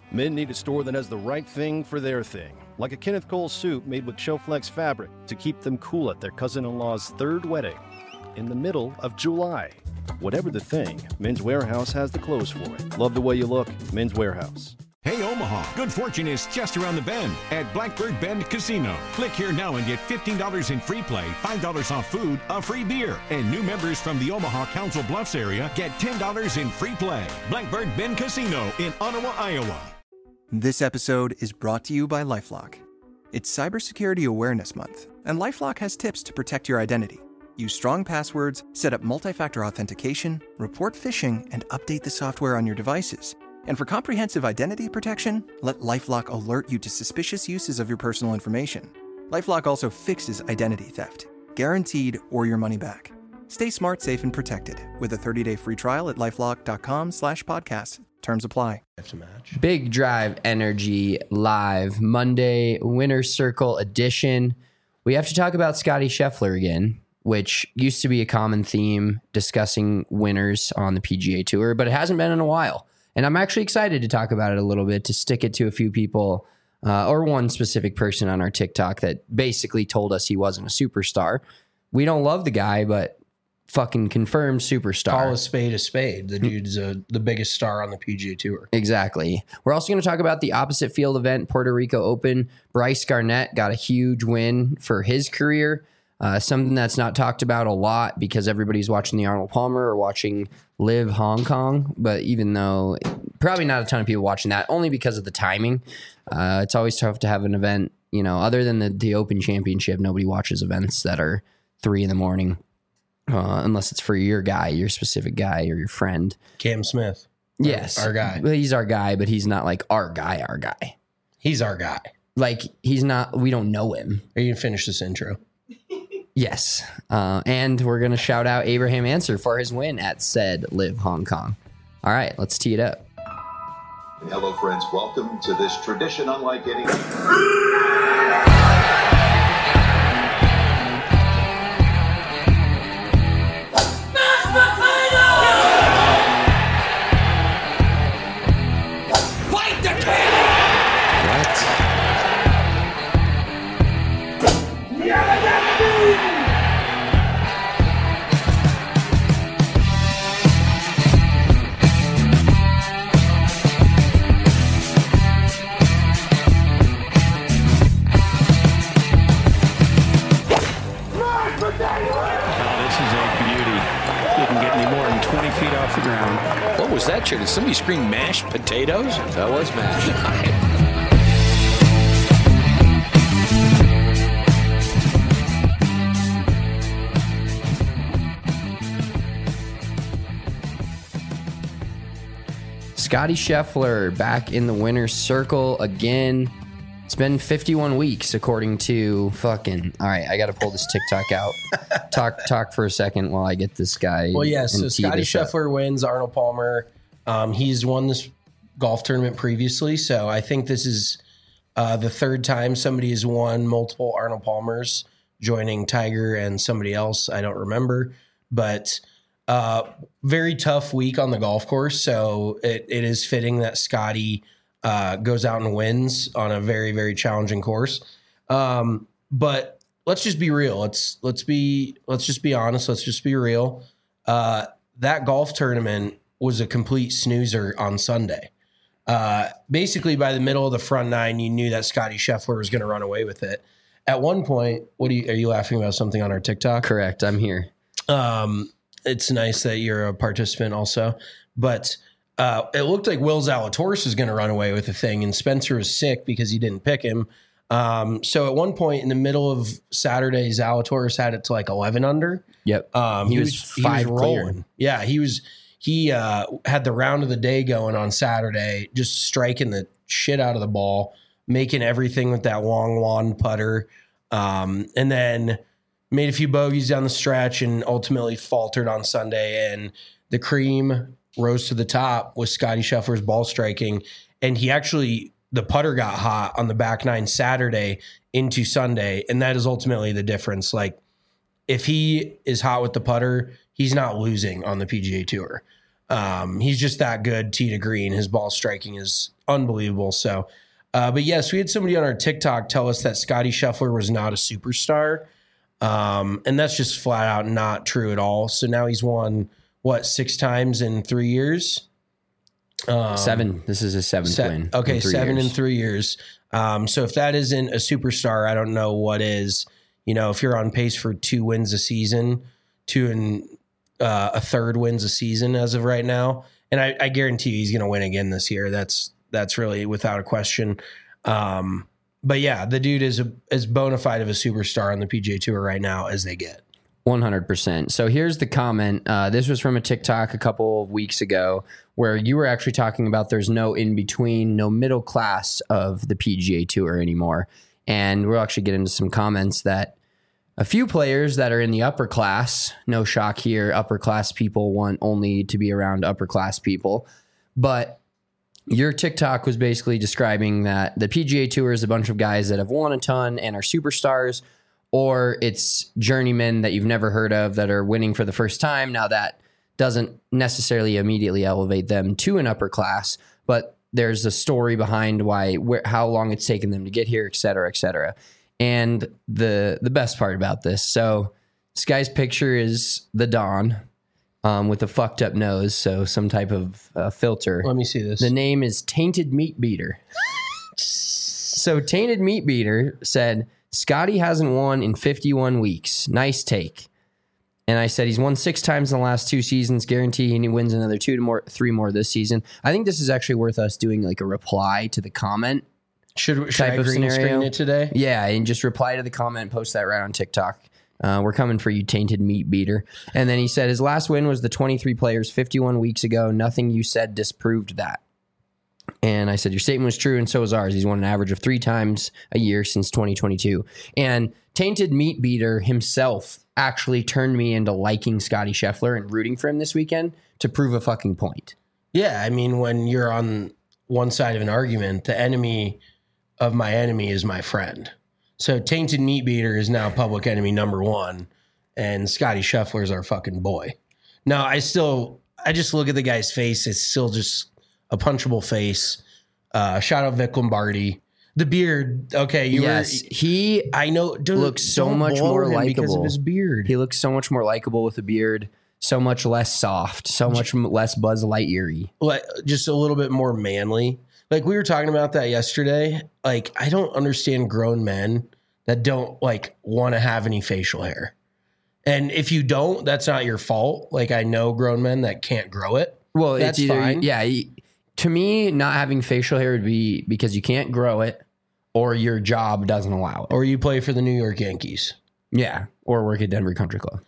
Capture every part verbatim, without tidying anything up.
Men need a store that has the right thing for their thing, like a Kenneth Cole suit made with Showflex fabric to keep them cool at their cousin-in-law's third wedding in the middle of July. Whatever the thing, Men's Warehouse has the clothes for it. Love the way you look, Men's Warehouse. Hey Omaha, good fortune is just around the bend at Blackbird Bend Casino. Click here now and get fifteen dollars in free play, five dollars off food, a free beer. And new members from the Omaha Council Bluffs area get ten dollars in free play. Blackbird Bend Casino in Ottawa, Iowa. This episode is brought to you by LifeLock. It's Cybersecurity Awareness Month, and LifeLock has tips to protect your identity. Use strong passwords, set up multi-factor authentication, report phishing, and update the software on your devices. And for comprehensive identity protection, let LifeLock alert you to suspicious uses of your personal information. LifeLock also fixes identity theft, guaranteed or your money back. Stay smart, safe, and protected with a thirty-day free trial at LifeLock.com slash podcast. Terms apply. Big Drive Energy Live Monday Winner's Circle edition. We have to talk about Scotty Scheffler again, which used to be a common theme discussing winners on the P G A Tour, but it hasn't been in a while. And I'm actually excited to talk about it a little bit, to stick it to a few people uh, or one specific person on our TikTok that basically told us he wasn't a superstar. We don't love the guy, but fucking confirmed superstar. Call a spade a spade. The dude's uh, the biggest star on the P G A Tour. Exactly. We're also going to talk about the opposite field event, Puerto Rico Open. Bryce Garnett got a huge win for his career. Uh, something that's not talked about a lot because everybody's watching the Arnold Palmer or watching Live Hong Kong. But even though probably not a ton of people watching that, only because of the timing. Uh, it's always tough to have an event, you know, other than the, the Open Championship. Nobody watches events that are three in the morning. Uh, unless it's for your guy, your specific guy, or your friend. Cam Smith. Yes. Our, our guy. Well, he's our guy, but he's not like our guy, our guy. He's our guy. Like, he's not, we don't know him. Are you going to finish this intro? Yes. Uh, and we're going to shout out Abraham Ancer for his win at said Live Hong Kong. All right, let's tee it up. Hello, friends. Welcome to this tradition unlike any... What was that, Chair? Did somebody scream mashed potatoes? That was mashed. Scotty Scheffler back in the winner's circle again. It's been fifty-one weeks, according to fucking... All right, I got to pull this TikTok out. talk talk for a second while I get this guy. Well, yes, yeah, so Scotty Scheffler up. wins Arnold Palmer. Um, he's won this golf tournament previously, so I think this is uh, the third time somebody has won multiple Arnold Palmers, joining Tiger and somebody else. I don't remember, but uh, very tough week on the golf course, so it, it is fitting that Scotty... Uh, goes out and wins on a very, very challenging course. Um, but let's just be real. Let's let's be let's just be honest. Let's just be real. Uh, that golf tournament was a complete snoozer on Sunday. Uh, basically, by the middle of the front nine, you knew that Scotty Scheffler was going to run away with it. At one point, what are you, are you laughing about something on our TikTok? Correct. I'm here. Um, it's nice that you're a participant also, but. Uh, it looked like Will Zalatoris was going to run away with the thing, and Spencer was sick because he didn't pick him. Um, so at one point in the middle of Saturday, Zalatoris had it to like eleven under. Yep. Um, he, he was, was five he was rolling. Clear. Yeah, he was. He uh, had the round of the day going on Saturday, just striking the shit out of the ball, making everything with that long lawn putter, um, and then made a few bogeys down the stretch, and ultimately faltered on Sunday. And the cream rose to the top with Scotty Scheffler's ball striking. And he actually, the putter got hot on the back nine Saturday into Sunday. And that is ultimately the difference. Like, if he is hot with the putter, he's not losing on the P G A Tour. Um, he's just that good tee to green. His ball striking is unbelievable. So, uh, but yes, we had somebody on our TikTok tell us that Scotty Scheffler was not a superstar. Um, and that's just flat out not true at all. So now he's won what, six times in three years? Um, seven. This is his seventh se- win. Okay. in Seven years. in three years. Um, so if that isn't a superstar, I don't know what is. You know, if you're on pace for two wins a season, two and uh, a third wins a season as of right now. And I, I guarantee you he's going to win again this year. That's, that's really without a question. Um, but yeah, the dude is a, as bona fide of a superstar on the P G A Tour right now as they get. one hundred percent. So here's the comment. Uh, this was from a TikTok a couple of weeks ago where you were actually talking about there's no in between, no middle class of the P G A Tour anymore. And we'll actually get into some comments that a few players that are in the upper class, no shock here, upper class people want only to be around upper class people. But your TikTok was basically describing that the P G A Tour is a bunch of guys that have won a ton and are superstars, or it's journeymen that you've never heard of that are winning for the first time. Now that doesn't necessarily immediately elevate them to an upper class, but there's a story behind why, where, how long it's taken them to get here, et cetera, et cetera. And the the best part about this, so this guy's picture is the Don um, with a fucked up nose, so some type of uh, filter. Let me see this. The name is Tainted Meat Beater. So Tainted Meat Beater said, Scotty hasn't won in fifty-one weeks. Nice take. And I said he's won six times in the last two seasons. Guarantee he wins another two to more, three more this season. I think this is actually worth us doing like a reply to the comment. Should, should type I of green scenario. screen it today? Yeah, and just reply to the comment and post that right on TikTok. Uh, we're coming for you, Tainted Meat Beater. And then he said his last win was the twenty-three players fifty-one weeks ago. Nothing you said disproved that. And I said, your statement was true, and so is ours. He's won an average of three times a year since twenty twenty-two. And Tainted Meat Beater himself actually turned me into liking Scotty Scheffler and rooting for him this weekend to prove a fucking point. Yeah, I mean, when you're on one side of an argument, the enemy of my enemy is my friend. So Tainted Meat Beater is now public enemy number one, and Scotty Scheffler is our fucking boy. Now, I still, I just look at the guy's face. It's still just a punchable face. Uh, shout out Vic Lombardi. The beard, okay, you yes, were, he I know, don't, looks so don't much blow more him likable because of his beard. He looks so much more likable with a beard, so much less soft, so much less Buzz Lightyear-y. Like, just a little bit more manly. Like, we were talking about that yesterday. Like, I don't understand grown men that don't like want to have any facial hair. And if you don't, that's not your fault. Like, I know grown men that can't grow it. Well, that's it's either, fine. yeah. To me, not having facial hair would be because you can't grow it, or your job doesn't allow it. Or you play for the New York Yankees. Yeah, or work at Denver Country Club.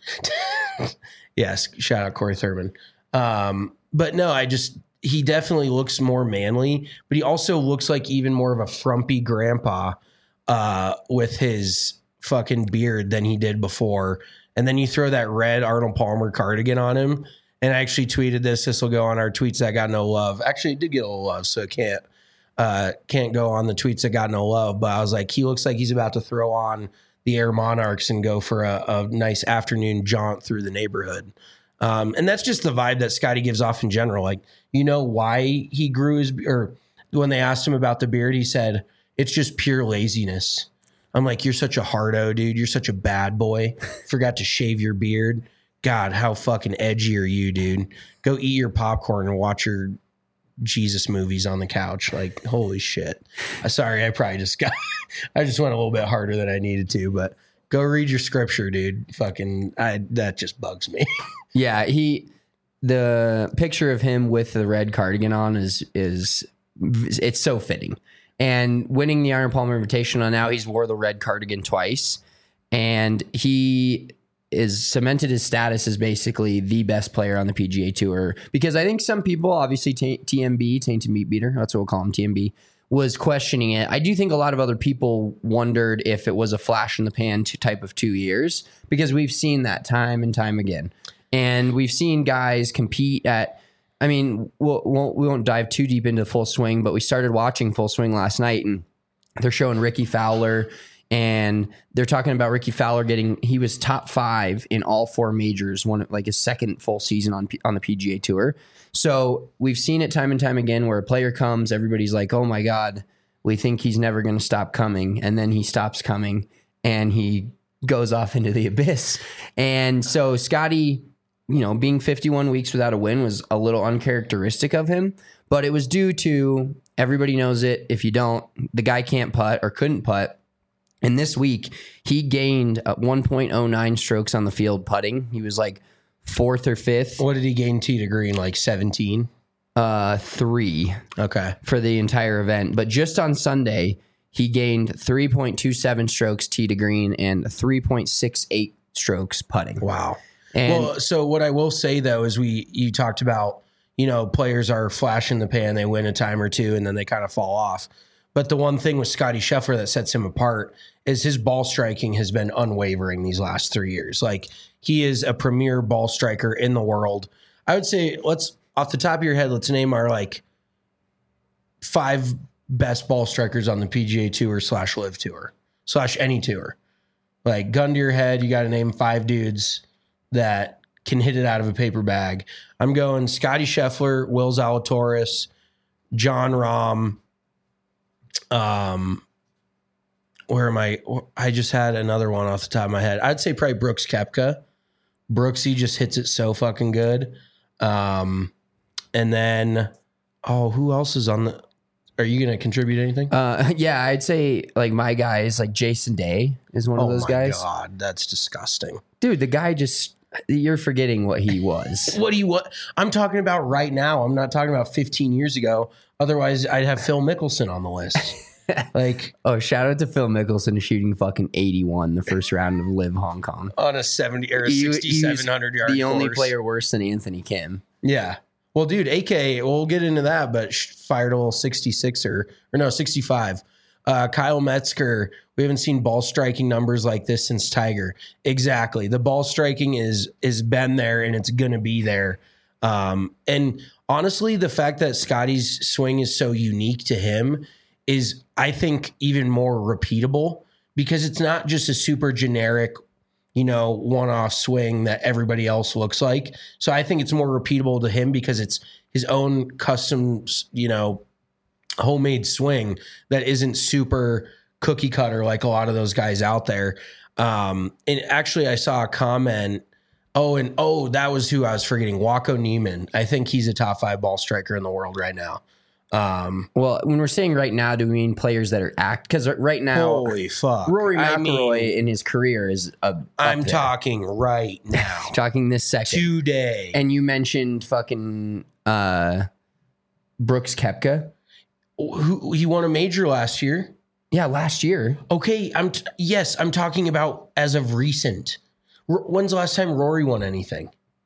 Yes, shout out Corey Thurman. Um, but no, I just, he definitely looks more manly, but he also looks like even more of a frumpy grandpa uh, with his fucking beard than he did before. And then you throw that red Arnold Palmer cardigan on him. And I actually tweeted this. This will go on our tweets that got no love. Actually, it did get a little love, so it can't uh, can't go on the tweets that got no love. But I was like, he looks like he's about to throw on the Air Monarchs and go for a, a nice afternoon jaunt through the neighborhood. Um, and that's just the vibe that Scotty gives off in general. Like, you know why he grew his, or when they asked him about the beard, he said, it's just pure laziness. I'm like, you're such a hardo, dude. You're such a bad boy. Forgot to shave your beard. God, how fucking edgy are you, dude? Go eat your popcorn and watch your Jesus movies on the couch. Like, holy shit. Uh, sorry, I probably just got, I just went a little bit harder than I needed to, but go read your scripture, dude. Fucking, I, that just bugs me. Yeah, he, the picture of him with the red cardigan on is, is, it's so fitting. And winning the Arnold Palmer Invitational, now he's wore the red cardigan twice. And he is cemented his status as basically the best player on the P G A Tour. Because I think some people, obviously T- TMB, Tainted Meat Beater, that's what we'll call him, T M B, was questioning it. I do think a lot of other people wondered if it was a flash in the pan type of two years. Because we've seen that time and time again. And we've seen guys compete at, I mean, we'll, won't, we won't dive too deep into Full Swing, but we started watching Full Swing last night, and they're showing Ricky Fowler And they're talking about Ricky Fowler getting, he was top five in all four majors, one like his second full season on on the P G A Tour. So we've seen it time and time again where a player comes, everybody's like, oh my God, we think he's never going to stop coming. And then he stops coming and he goes off into the abyss. And so Scotty, you know, being fifty-one weeks without a win was a little uncharacteristic of him, but it was due to, everybody knows it. If you don't, the guy can't putt or couldn't putt. And this week, he gained uh, one point oh nine strokes on the field putting. He was like fourth or fifth. What did he gain tee to green? Like seventeen? Uh, three. Okay. For the entire event. But just on Sunday, he gained three point two seven strokes tee to green and three point six eight strokes putting. Wow. And well, so what I will say, though, is we you talked about, you know, players are flash in the pan, they win a time or two, and then they kind of fall off. But the one thing with Scotty Scheffler that sets him apart is his ball striking has been unwavering these last three years. Like, he is a premier ball striker in the world. I would say, let's, off the top of your head, let's name our, like, five best ball strikers on the P G A Tour slash Live Tour slash any tour. Like, gun to your head, you got to name five dudes that can hit it out of a paper bag. I'm going Scotty Scheffler, Will Zalatoris, John Rahm. Um, where am I? I just had another one off the top of my head. I'd say probably Brooks Koepka. Brooksy just hits it so fucking good. Um, and then, oh, who else is on the? Are you going to contribute anything? uh, yeah, I'd say like my guy is like Jason Day is one oh of those my guys. God, that's disgusting. Dude, the guy just, you're forgetting what he was. What do you what? I'm talking about right now. I'm not talking about fifteen years ago. Otherwise, I'd have Phil Mickelson on the list. Like, oh, shout out to Phil Mickelson shooting fucking eighty-one the first round of Live Hong Kong on a seventy or a He- sixty-seven hundred he was yard the only course. player worse than Anthony Kim. Yeah. Well, dude, A K, we'll get into that, but sh- fired a little sixty-sixer, or no, sixty-five. Uh, Kyle Metzger, we haven't seen ball striking numbers like this since Tiger. Exactly. The ball striking is is been there and it's going to be there. Um, and honestly, the fact that Scotty's swing is so unique to him is, I think, even more repeatable because it's not just a super generic, you know, one-off swing that everybody else looks like. So I think it's more repeatable to him because it's his own custom, you know, homemade swing that isn't super cookie cutter like a lot of those guys out there. Um, and actually I saw a comment. Oh, and oh, that was who I was forgetting. Waco Neiman. I think he's a top five ball striker in the world right now. Um, Well, when we're saying right now, do we mean players that are act? Because right now, holy fuck. Rory I McIlroy mean, in his career is a. I'm talking right now. talking this second Today. And you mentioned fucking uh, Brooks Koepka. Who he won a major last year. Yeah, last year. Okay, I'm t- yes, I'm talking about as of recent. R- when's the last time Rory won anything?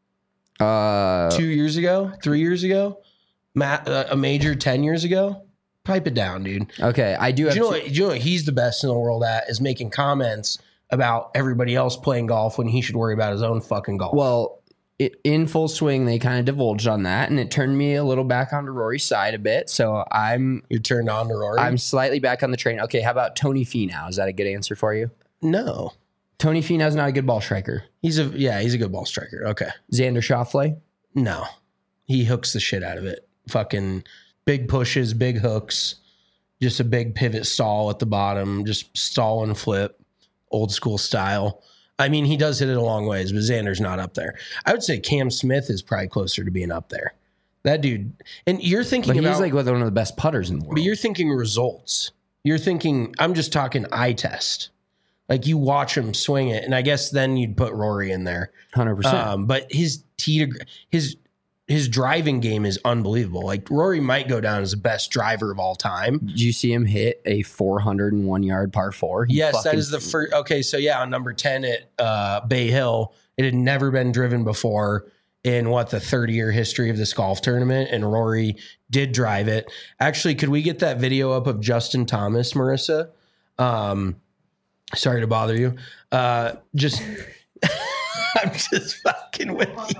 Uh, Two years ago? Three years ago? Matt, uh, a major ten years ago? Pipe it down, dude. okay, I do Do have. you know to- what? Do you know what he's the best in the world at? Is making comments about everybody else playing golf when he should worry about his own fucking golf. well, it, in full swing, they kind of divulged on that, and it turned me a little back onto Rory's side a bit. So I'm you're turned on to Rory. I'm slightly back on the train. Okay, how about Tony Finau? Is that a good answer for you? no, Tony Finau's not a good ball striker. he's a yeah, he's a good ball striker. Okay, Xander Schauffele. no, he hooks the shit out of it. Fucking big pushes, big hooks, just a big pivot stall at the bottom, just stall and flip, old school style. I mean, he does hit it a long ways, but Xander's not up there. I would say Cam Smith is probably closer to being up there. That dude, and you're thinking But he's about, like one of the best putters in the world. but you're thinking results. You're thinking, I'm just talking eye test. Like you watch him swing it, and I guess then you'd put Rory in there. one hundred percent. Um, but his tee to his his driving game is unbelievable. Like Rory might go down as the best driver of all time. Did you see him hit a four hundred one yard par four? He Yes, that fucking- is the first. Okay, so yeah, on number ten at uh, Bay Hill, it had never been driven before in what the thirty year history of this golf tournament, and Rory did drive it. Actually, could we get that video up of Justin Thomas, Marissa? Um, sorry to bother you. Uh, just I'm just fucking with you.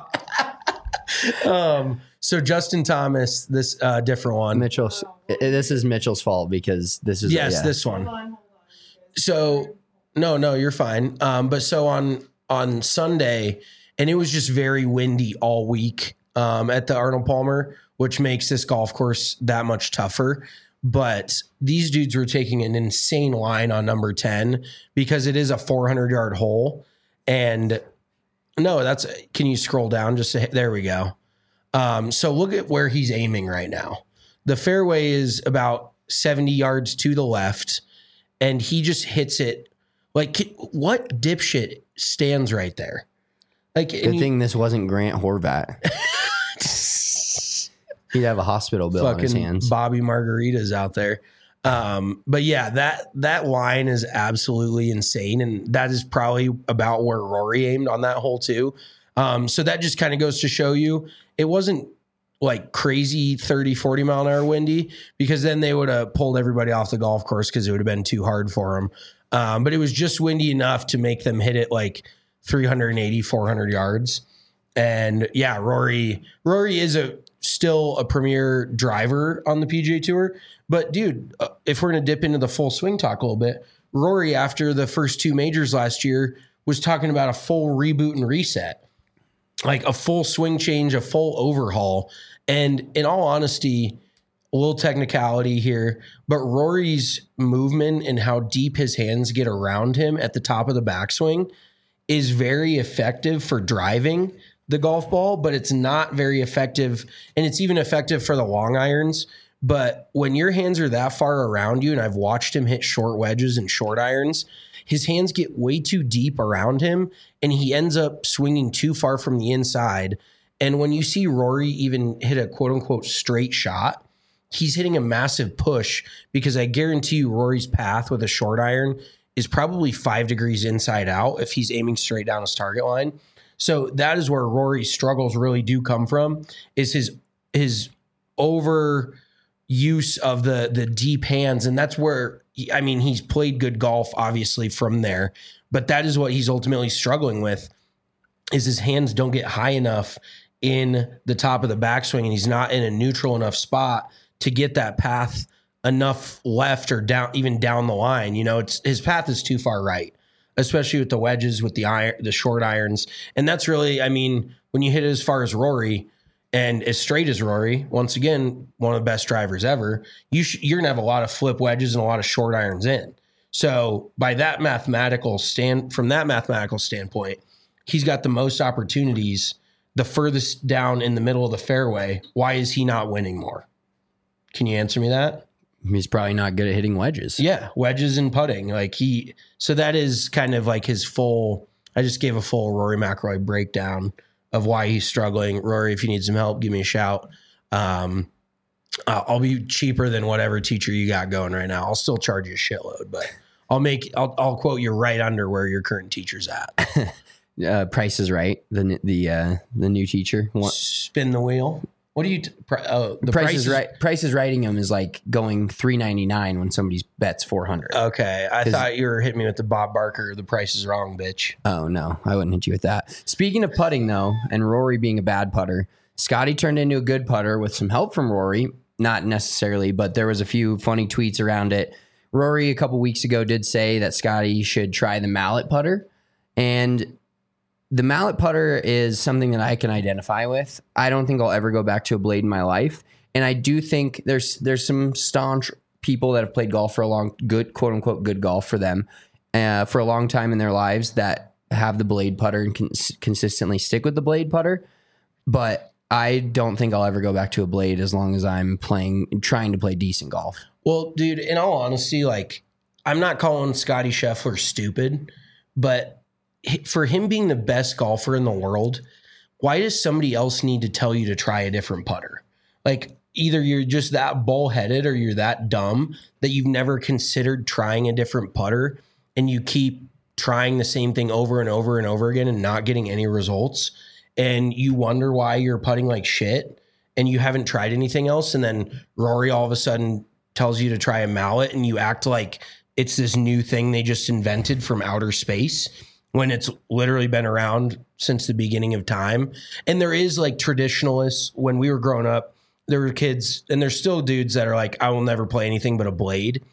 um, so Justin Thomas, this uh, different one. Mitchell's. i- This is Mitchell's fault because this is Yes, yeah. this one. So no, no, you're fine. Um, but so on on Sunday, and it was just very windy all week um, at the Arnold Palmer, which makes this golf course that much tougher. But these dudes were taking an insane line on number ten because it is a four hundred yard hole. And no, that's, can you scroll down? Just to, there we go. Um, so look at where he's aiming right now. The fairway is about seventy yards to the left, and he just hits it. Like, what dipshit stands right there? Like, Good you, thing this wasn't Grant Horvat. He'd have a hospital bill on his hands. Bobby Margaritas out there. Um, but yeah, that that line is absolutely insane. And that is probably about where Rory aimed on that hole too. Um, so that just kind of goes to show you it wasn't like crazy thirty, forty mile an hour windy, because then they would have pulled everybody off the golf course because it would have been too hard for them. Um, but it was just windy enough to make them hit it like three eighty, four hundred yards. And yeah, Rory, Rory is a still a premier driver on the P G A Tour. But dude, uh, if we're going to dip into the full swing talk a little bit, Rory, after the first two majors last year, was talking about a full reboot and reset, like a full swing change, a full overhaul. And in all honesty, a little technicality here, but Rory's movement and how deep his hands get around him at the top of the backswing is very effective for driving the golf ball, but it's not very effective. And it's even effective for the long irons. But when your hands are that far around you, and I've watched him hit short wedges and short irons, his hands get way too deep around him, and he ends up swinging too far from the inside. And when you see Rory even hit a quote unquote straight shot, he's hitting a massive push, because I guarantee you Rory's path with a short iron is probably five degrees inside out if he's aiming straight down his target line. So that is where Rory's struggles really do come from, is his his over use of the the deep hands. And that's where, he, I mean, he's played good golf, obviously, from there. But that is what he's ultimately struggling with, is his hands don't get high enough in the top of the backswing, and he's not in a neutral enough spot to get that path enough left or down, even down the line. You know, it's his path is too far right, especially with the wedges, with the iron, the short irons. And that's really, I mean, when you hit it as far as Rory and as straight as Rory, once again, one of the best drivers ever, you sh- you're gonna have a lot of flip wedges and a lot of short irons in. So by that mathematical stand, from that mathematical standpoint, he's got the most opportunities the furthest down in the middle of the fairway. Why is he not winning more? Can you answer me that? He's probably not good at hitting wedges. Yeah, wedges and putting. Like he, so that is kind of like his full, I just gave a full Rory McIlroy breakdown of why he's struggling. Rory, if you need some help, give me a shout. Um, I'll be cheaper than whatever teacher you got going right now. I'll still charge you a shitload, but I'll make, I'll, I'll quote you right under where your current teacher's at. uh, Price is Right. The, the, uh, the new teacher. What? Spin the wheel. What do you? T- pr- oh, the Price, price is right. Price is Writing him is like going three ninety-nine when somebody's bets four hundred. Okay, I thought you were hitting me with the Bob Barker. The Price is Wrong, bitch. Oh no, I wouldn't hit you with that. Speaking of putting though, and Rory being a bad putter, Scotty turned into a good putter with some help from Rory. Not necessarily, but there was a few funny tweets around it. Rory a couple weeks ago did say that Scotty should try the mallet putter, and the mallet putter is something that I can identify with. I don't think I'll ever go back to a blade in my life. And I do think there's there's some staunch people that have played golf for a long, good, quote unquote, good golf for them uh, for a long time in their lives that have the blade putter and can consistently stick with the blade putter. But I don't think I'll ever go back to a blade as long as I'm playing, trying to play decent golf. Well, dude, in all honesty, like, I'm not calling Scotty Scheffler stupid, but for him being the best golfer in the world, why does somebody else need to tell you to try a different putter? Like, either you're just that bullheaded or you're that dumb that you've never considered trying a different putter, and you keep trying the same thing over and over and over again and not getting any results. And you wonder why you're putting like shit and you haven't tried anything else. And then Rory all of a sudden tells you to try a mallet, and you act like it's this new thing they just invented from outer space, when it's literally been around since the beginning of time. And there is like traditionalists. When we were growing up, there were kids, and there's still dudes that are like, I will never play anything but a blade.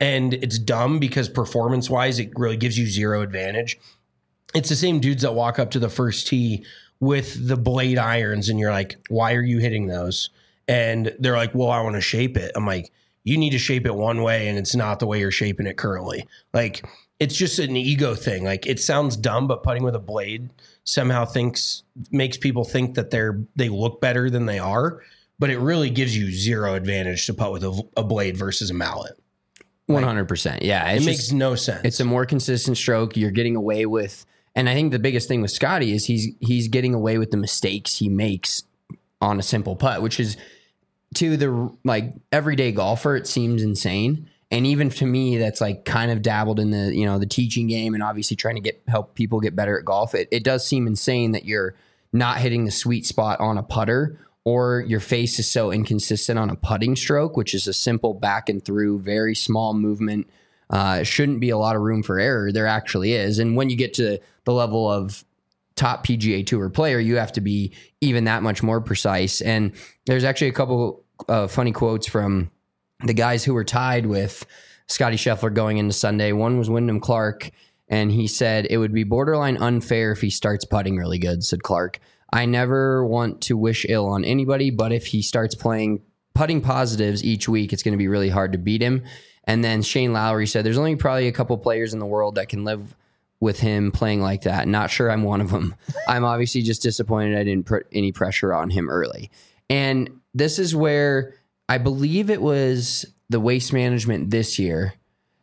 And it's dumb because performance-wise, it really gives you zero advantage. It's the same dudes that walk up to the first tee with the blade irons, and you're like, why are you hitting those? And they're like, well, I want to shape it. I'm like, you need to shape it one way, and it's not the way you're shaping it currently. Like, it's just an ego thing. Like, it sounds dumb, but putting with a blade somehow thinks makes people think that they're they look better than they are. But it really gives you zero advantage to putt with a, a blade versus a mallet. one hundred percent. Yeah. It It's makes just, no sense. it's a more consistent stroke. You're getting away with, and I think the biggest thing with Scotty is he's he's getting away with the mistakes he makes on a simple putt, which is to the like everyday golfer, it seems insane. And even to me, that's like kind of dabbled in the, you know, the teaching game and obviously trying to get help people get better at golf. It, it does seem insane that you're not hitting the sweet spot on a putter, or your face is so inconsistent on a putting stroke, which is a simple back and through, very small movement. Uh, shouldn't be a lot of room for error. There actually is. And when you get to the level of top P G A Tour player, you have to be even that much more precise. And there's actually a couple uh, funny quotes from the guys who were tied with Scotty Scheffler going into Sunday. One was Wyndham Clark, and he said, it would be borderline unfair if he starts putting really good, said Clark. I never want to wish ill on anybody, but if he starts playing putting positives each week, it's going to be really hard to beat him. And then Shane Lowry said, there's only probably a couple players in the world that can live with him playing like that. Not sure I'm one of them. I'm obviously just disappointed I didn't put any pressure on him early. And this is where I believe it was the Waste Management this year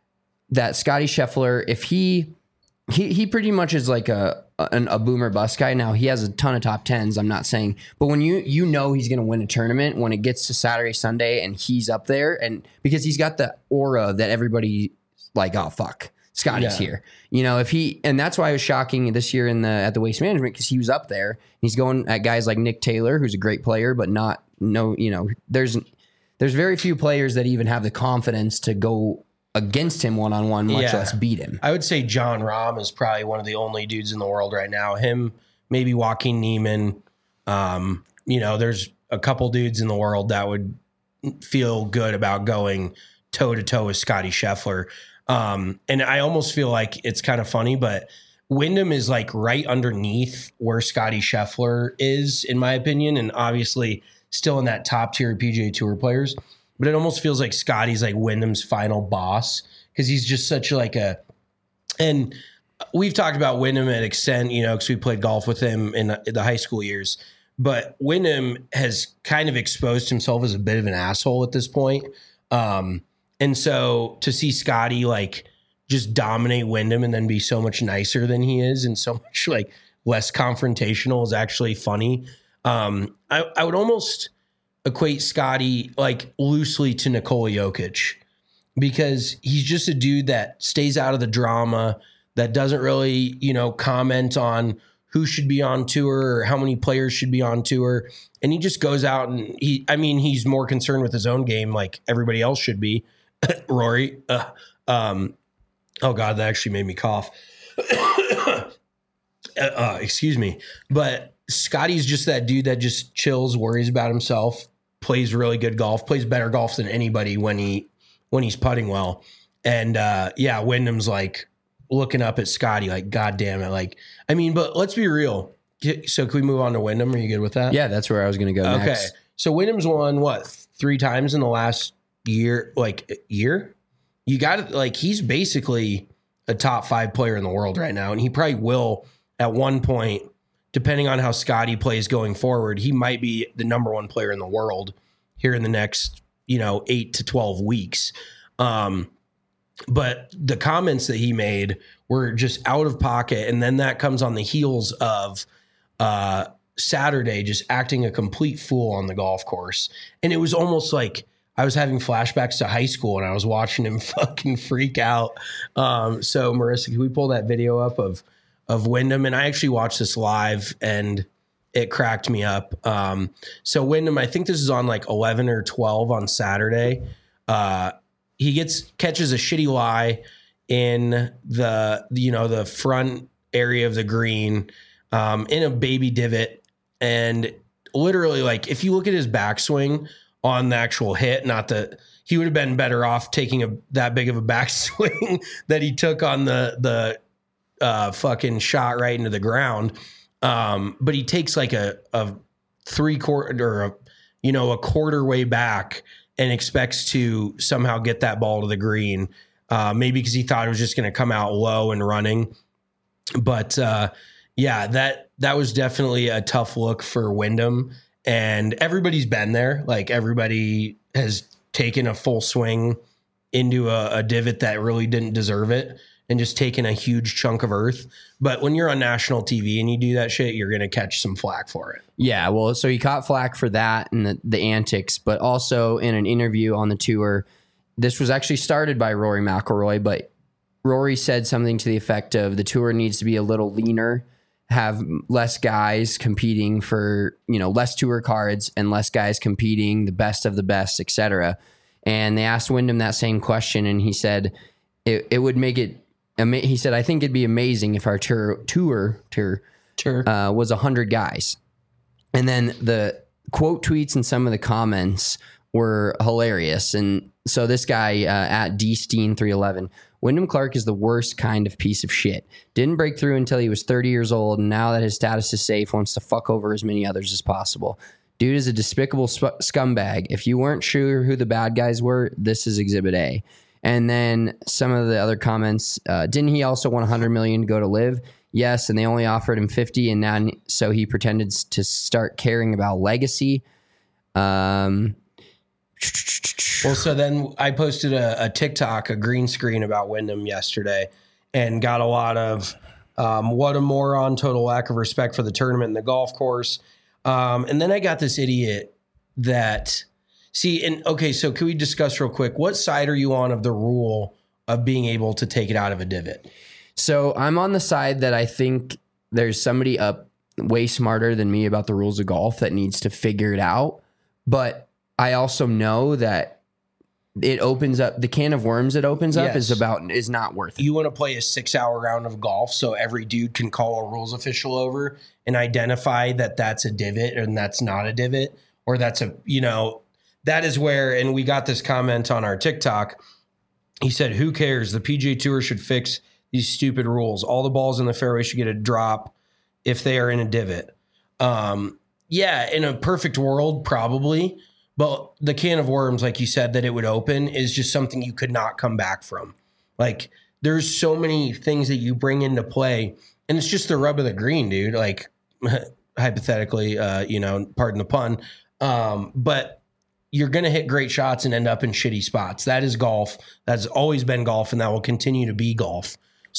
that Scotty Scheffler, if he he he pretty much is like a a, a boomer bust guy. Now he has a ton of top tens. I'm not saying, but when you you know he's going to win a tournament when it gets to Saturday, Sunday, and he's up there, and because he's got the aura that everybody like, oh fuck, Scotty's yeah. here. You know, if he, and that's why it was shocking this year in the at the Waste Management, because he was up there. He's going at guys like Nick Taylor, who's a great player, but not no, you know, there's. There's very few players that even have the confidence to go against him one-on-one, much yeah. less beat him. I would say John Rahm is probably one of the only dudes in the world right now. Him, maybe Joaquin Niemann. Um, you know, there's a couple dudes in the world that would feel good about going toe-to-toe with Scotty Scheffler. Um, and I almost feel like it's kind of funny, but Wyndham is like right underneath where Scotty Scheffler is, in my opinion, and obviously still in that top tier P G A Tour players, but it almost feels like Scotty's like Wyndham's final boss because he's just such like a, and we've talked about Wyndham at extent, you know, because we played golf with him in the high school years, but Wyndham has kind of exposed himself as a bit of an asshole at this point. Um, and so to see Scotty like just dominate Wyndham and then be so much nicer than he is and so much like less confrontational is actually funny. Um, I, I would almost equate Scotty like loosely to Nikola Jokic because he's just a dude that stays out of the drama, that doesn't really, you know, comment on who should be on tour or how many players should be on tour. And he just goes out and he, I mean, he's more concerned with his own game like everybody else should be. Rory. Uh, um, oh God, that actually made me cough. uh, excuse me. But Scotty's just that dude that just chills, worries about himself, plays really good golf, plays better golf than anybody when he when he's putting well. And uh, yeah, Wyndham's like looking up at Scotty like, God damn it. Like, I mean, but let's be real. So can we move on to Wyndham? Are you good with that? Yeah, that's where I was going to go okay. next. So Wyndham's won what, three times in the last year, like year? You got it. Like he's basically a top five player in the world right now. And he probably will at one point, depending on how Scotty plays going forward, he might be the number one player in the world here in the next, you know, eight to twelve weeks. Um, but the comments that he made were just out of pocket. And then that comes on the heels of uh, Saturday just acting a complete fool on the golf course. And it was almost like I was having flashbacks to high school and I was watching him fucking freak out. Um, so Marissa, can we pull that video up of of Wyndham? And I actually watched this live and it cracked me up. Um, so Wyndham, I think this is on like eleven or twelve on Saturday. Uh, he gets, catches a shitty lie in the, you know, the front area of the green, um, in a baby divot. And literally like, if you look at his backswing on the actual hit, not the, he would have been better off taking a that big of a backswing that he took on the the uh, fucking shot right into the ground. Um, but he takes like a a three quarter or a, you know a quarter way back and expects to somehow get that ball to the green. Uh, maybe because he thought it was just going to come out low and running. But uh, yeah, that that was definitely a tough look for Wyndham. And everybody's been there. Like everybody has taken a full swing into a, a divot that really didn't deserve it and just taken a huge chunk of earth. But when you're on national T V and you do that shit, you're going to catch some flack for it. Yeah, well, so he caught flack for that and the, the antics, but also in an interview on the tour, this was actually started by Rory McIlroy, but Rory said something to the effect of the tour needs to be a little leaner, have less guys competing for, you know, less tour cards and less guys competing, the best of the best, et cetera. And they asked Wyndham that same question, and he said it, it would make it, he said, I think it'd be amazing if our tour, tour, tour, Sure. uh, was one hundred guys. And then the quote tweets and some of the comments were hilarious. And so this guy uh, at D Steen three eleven, Wyndham Clark is the worst kind of piece of shit. Didn't break through until he was thirty years old, and now that his status is safe, wants to fuck over as many others as possible. Dude is a despicable sp- scumbag. If you weren't sure who the bad guys were, this is Exhibit A. And then some of the other comments, uh, didn't he also want one hundred million dollars to go to live? Yes, and they only offered him fifty, and now so he pretended to start caring about legacy. Um... Well, so then I posted a, a TikTok, a green screen about Wyndham yesterday, and got a lot of um, what a moron, total lack of respect for the tournament and the golf course. Um, and then I got this idiot that, see, and okay, so can we discuss real quick, what side are you on of the rule of being able to take it out of a divot? So I'm on the side that I think there's somebody up way smarter than me about the rules of golf that needs to figure it out. But I also know that it opens up the can of worms. It opens up Yes. is about is not worth it. You want to play a six hour round of golf so every dude can call a rules official over and identify that that's a divot and that's not a divot, or that's a, you know, that is where, and we got this comment on our TikTok. He said, who cares? The P G A Tour should fix these stupid rules. All the balls in the fairway should get a drop if they are in a divot. Um, yeah, in a perfect world, probably. But the can of worms, like you said, that it would open is just something you could not come back from. Like, there's so many things that you bring into play, and it's just the rub of the green, dude. Like, hypothetically, uh, you know, pardon the pun. Um, but you're going to hit great shots and end up in shitty spots. That is golf. That's always been golf, and that will continue to be golf.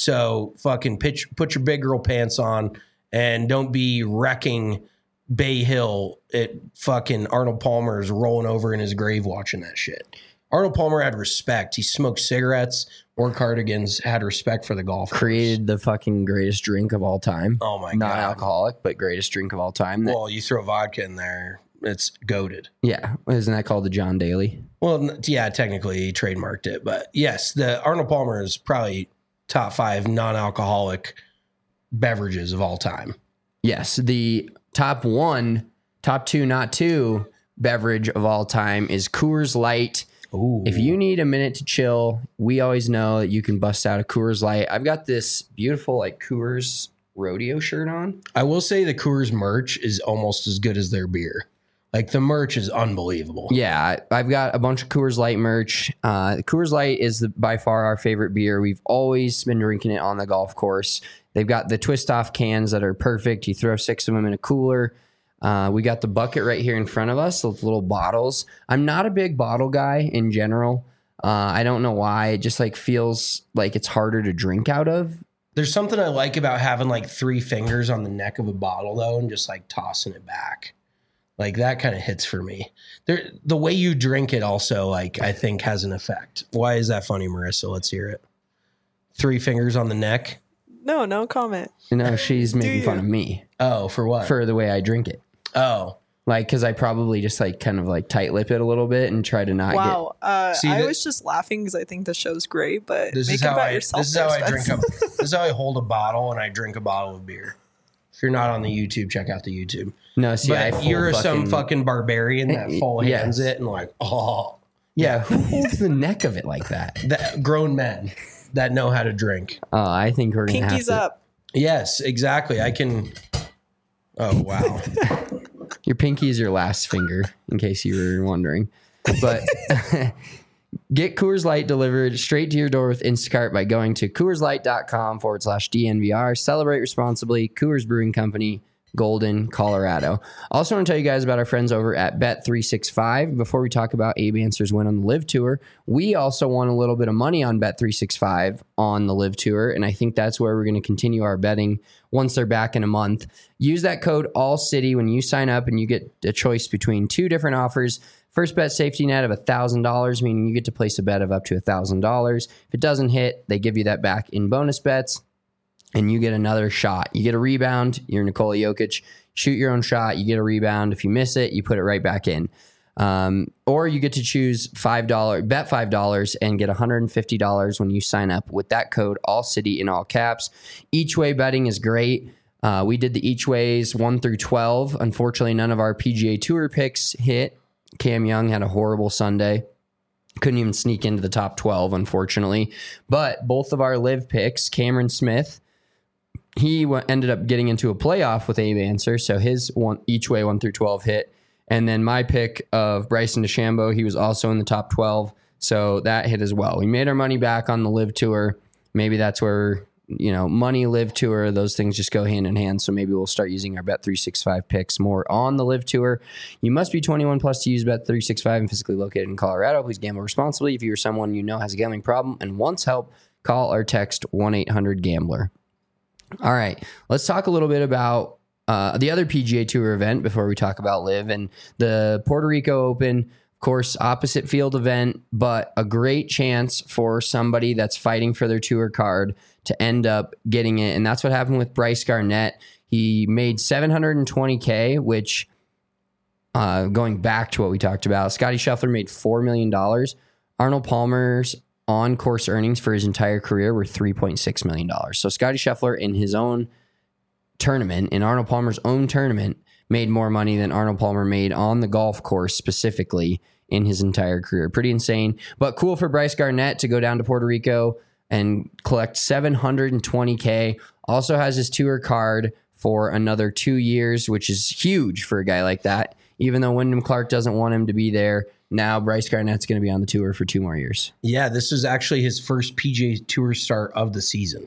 So fucking pitch, put your big girl pants on and don't be wrecking Bay Hill at fucking Arnold Palmer's rolling over in his grave watching that shit. Arnold Palmer had respect. He smoked cigarettes, wore cardigans, had respect for the golf course. Created the fucking greatest drink of all time. Oh my Not God. alcoholic, but greatest drink of all time. That- Well, you throw vodka in there, it's goated. yeah. Isn't that called the John Daly? Well, n- yeah, technically he trademarked it, but yes, the Arnold Palmer is probably top five non-alcoholic beverages of all time. Yes. The top one, top two, not two beverage of all time is Coors Light. Ooh. If you need a minute to chill, we always know that you can bust out a Coors Light. I've got this beautiful like Coors rodeo shirt on. I will say the Coors merch is almost as good as their beer. Like the merch is unbelievable. Yeah, I- I've got a bunch of Coors Light merch. Uh, Coors Light is the, by far our favorite beer. We've always been drinking it on the golf course. They've got the twist off cans that are perfect. You throw six of them in a cooler. Uh, we got the bucket right here in front of us, those little bottles. I'm not a big bottle guy in general. Uh, I don't know why. It just like feels like it's harder to drink out of. There's something I like about having like three fingers on the neck of a bottle though, and just like tossing it back. Like that kind of hits for me. There, the way you drink it also, like I think, has an effect. Why is that funny, Marissa? Let's hear it. Three fingers on the neck. No, no comment. No, she's making you? fun of me Oh, for what? for the way I drink it. oh, Like, because I probably just like kind of like tight lip it a little bit and try to not Wow. Uh, See, I that- was just laughing because I think the show's great, but this make is it how about I. yourself. This is how there, I drink Spence. a. This is how I hold a bottle, and I drink a bottle of beer. If you're not on the YouTube, check out the YouTube. get. No, see, I But full you're some fucking, fucking barbarian that full Yes. hands it and like, oh, Yeah, who holds the neck of it like that? That grown men that know how to drink. Oh, I think we're gonna have Pinkies to. up. Yes, exactly. I can. Oh wow. Your pinky is your last finger, in case you were wondering. But get Coors Light delivered straight to your door with Instacart by going to CoorsLight.com forward slash DNVR. Celebrate responsibly. Coors Brewing Company, Golden, Colorado. Also want to tell you guys about our friends over at Bet three sixty-five. Before we talk about Abe Answer's win on the Live Tour, we also won a little bit of money on Bet three sixty-five on the Live Tour, and I think that's where we're going to continue our betting once they're back in a month. Use that code ALLCITY when you sign up, and you get a choice between two different offers. First bet safety net of one thousand dollars, meaning you get to place a bet of up to one thousand dollars. If it doesn't hit, they give you that back in bonus bets, and you get another shot. You get a rebound. You're Nikola Jokic. Shoot your own shot. You get a rebound. If you miss it, you put it right back in. Um, or you get to choose five dollars, bet five dollars and get one hundred fifty dollars when you sign up with that code ALLCITY in all caps. Each way betting is great. Uh, we did the each ways one through twelve. Unfortunately, none of our P G A Tour picks hit. Cam Young had a horrible Sunday. Couldn't even sneak into the top twelve, unfortunately. But both of our live picks, Cameron Smith, he w- ended up getting into a playoff with Abe Answer, so his one each way one through twelve hit. And then my pick of Bryson DeChambeau, he was also in the top twelve, so that hit as well. We made our money back on the Live Tour. Maybe that's where, you know, money, Live Tour, those things just go hand in hand. So maybe we'll start using our Bet three sixty-five picks more on the Live Tour. You must be twenty-one plus to use Bet three sixty-five and physically located in Colorado. Please gamble responsibly. If you or someone you know has a gambling problem and wants help, call or text one eight hundred gambler. All right, let's talk a little bit about uh, the other P G A Tour event before we talk about Live, and the Puerto Rico Open. Of course, opposite field event, but a great chance for somebody that's fighting for their tour card to end up getting it. And that's what happened with Bryce Garnett. He made seven hundred twenty K, which uh, going back to what we talked about, Scotty Scheffler made four million dollars. Arnold Palmer's on-course earnings for his entire career were three point six million dollars. So Scotty Scheffler in his own tournament, in Arnold Palmer's own tournament, made more money than Arnold Palmer made on the golf course specifically in his entire career. Pretty insane, but cool for Bryce Garnett to go down to Puerto Rico and collect seven hundred twenty K. Also has his tour card for another two years, which is huge for a guy like that. Even though Wyndham Clark doesn't want him to be there, now Bryce Garnett's going to be on the tour for two more years. Yeah, this is actually his first P G A Tour start of the season.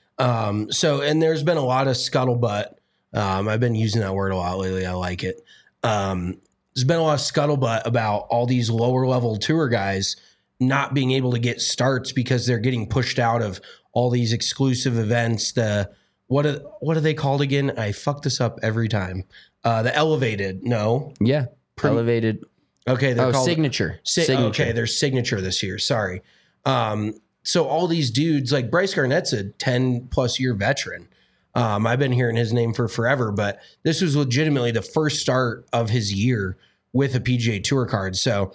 Um, so, and there's been a lot of scuttlebutt. Um, I've been using that word a lot lately. I like it. Um, there's been a lot of scuttlebutt about all these lower level tour guys not being able to get starts because they're getting pushed out of all these exclusive events. The what are, what are they called again? I fuck this up every time. Uh, the elevated, no, Yeah, Pretty- elevated. okay, they're Oh, called signature. Si- signature. Okay, their signature this year. Sorry. Um, so all these dudes, like Bryce Garnett's a ten plus year veteran. Um, I've been hearing his name for forever, but this was legitimately the first start of his year with a P G A Tour card. So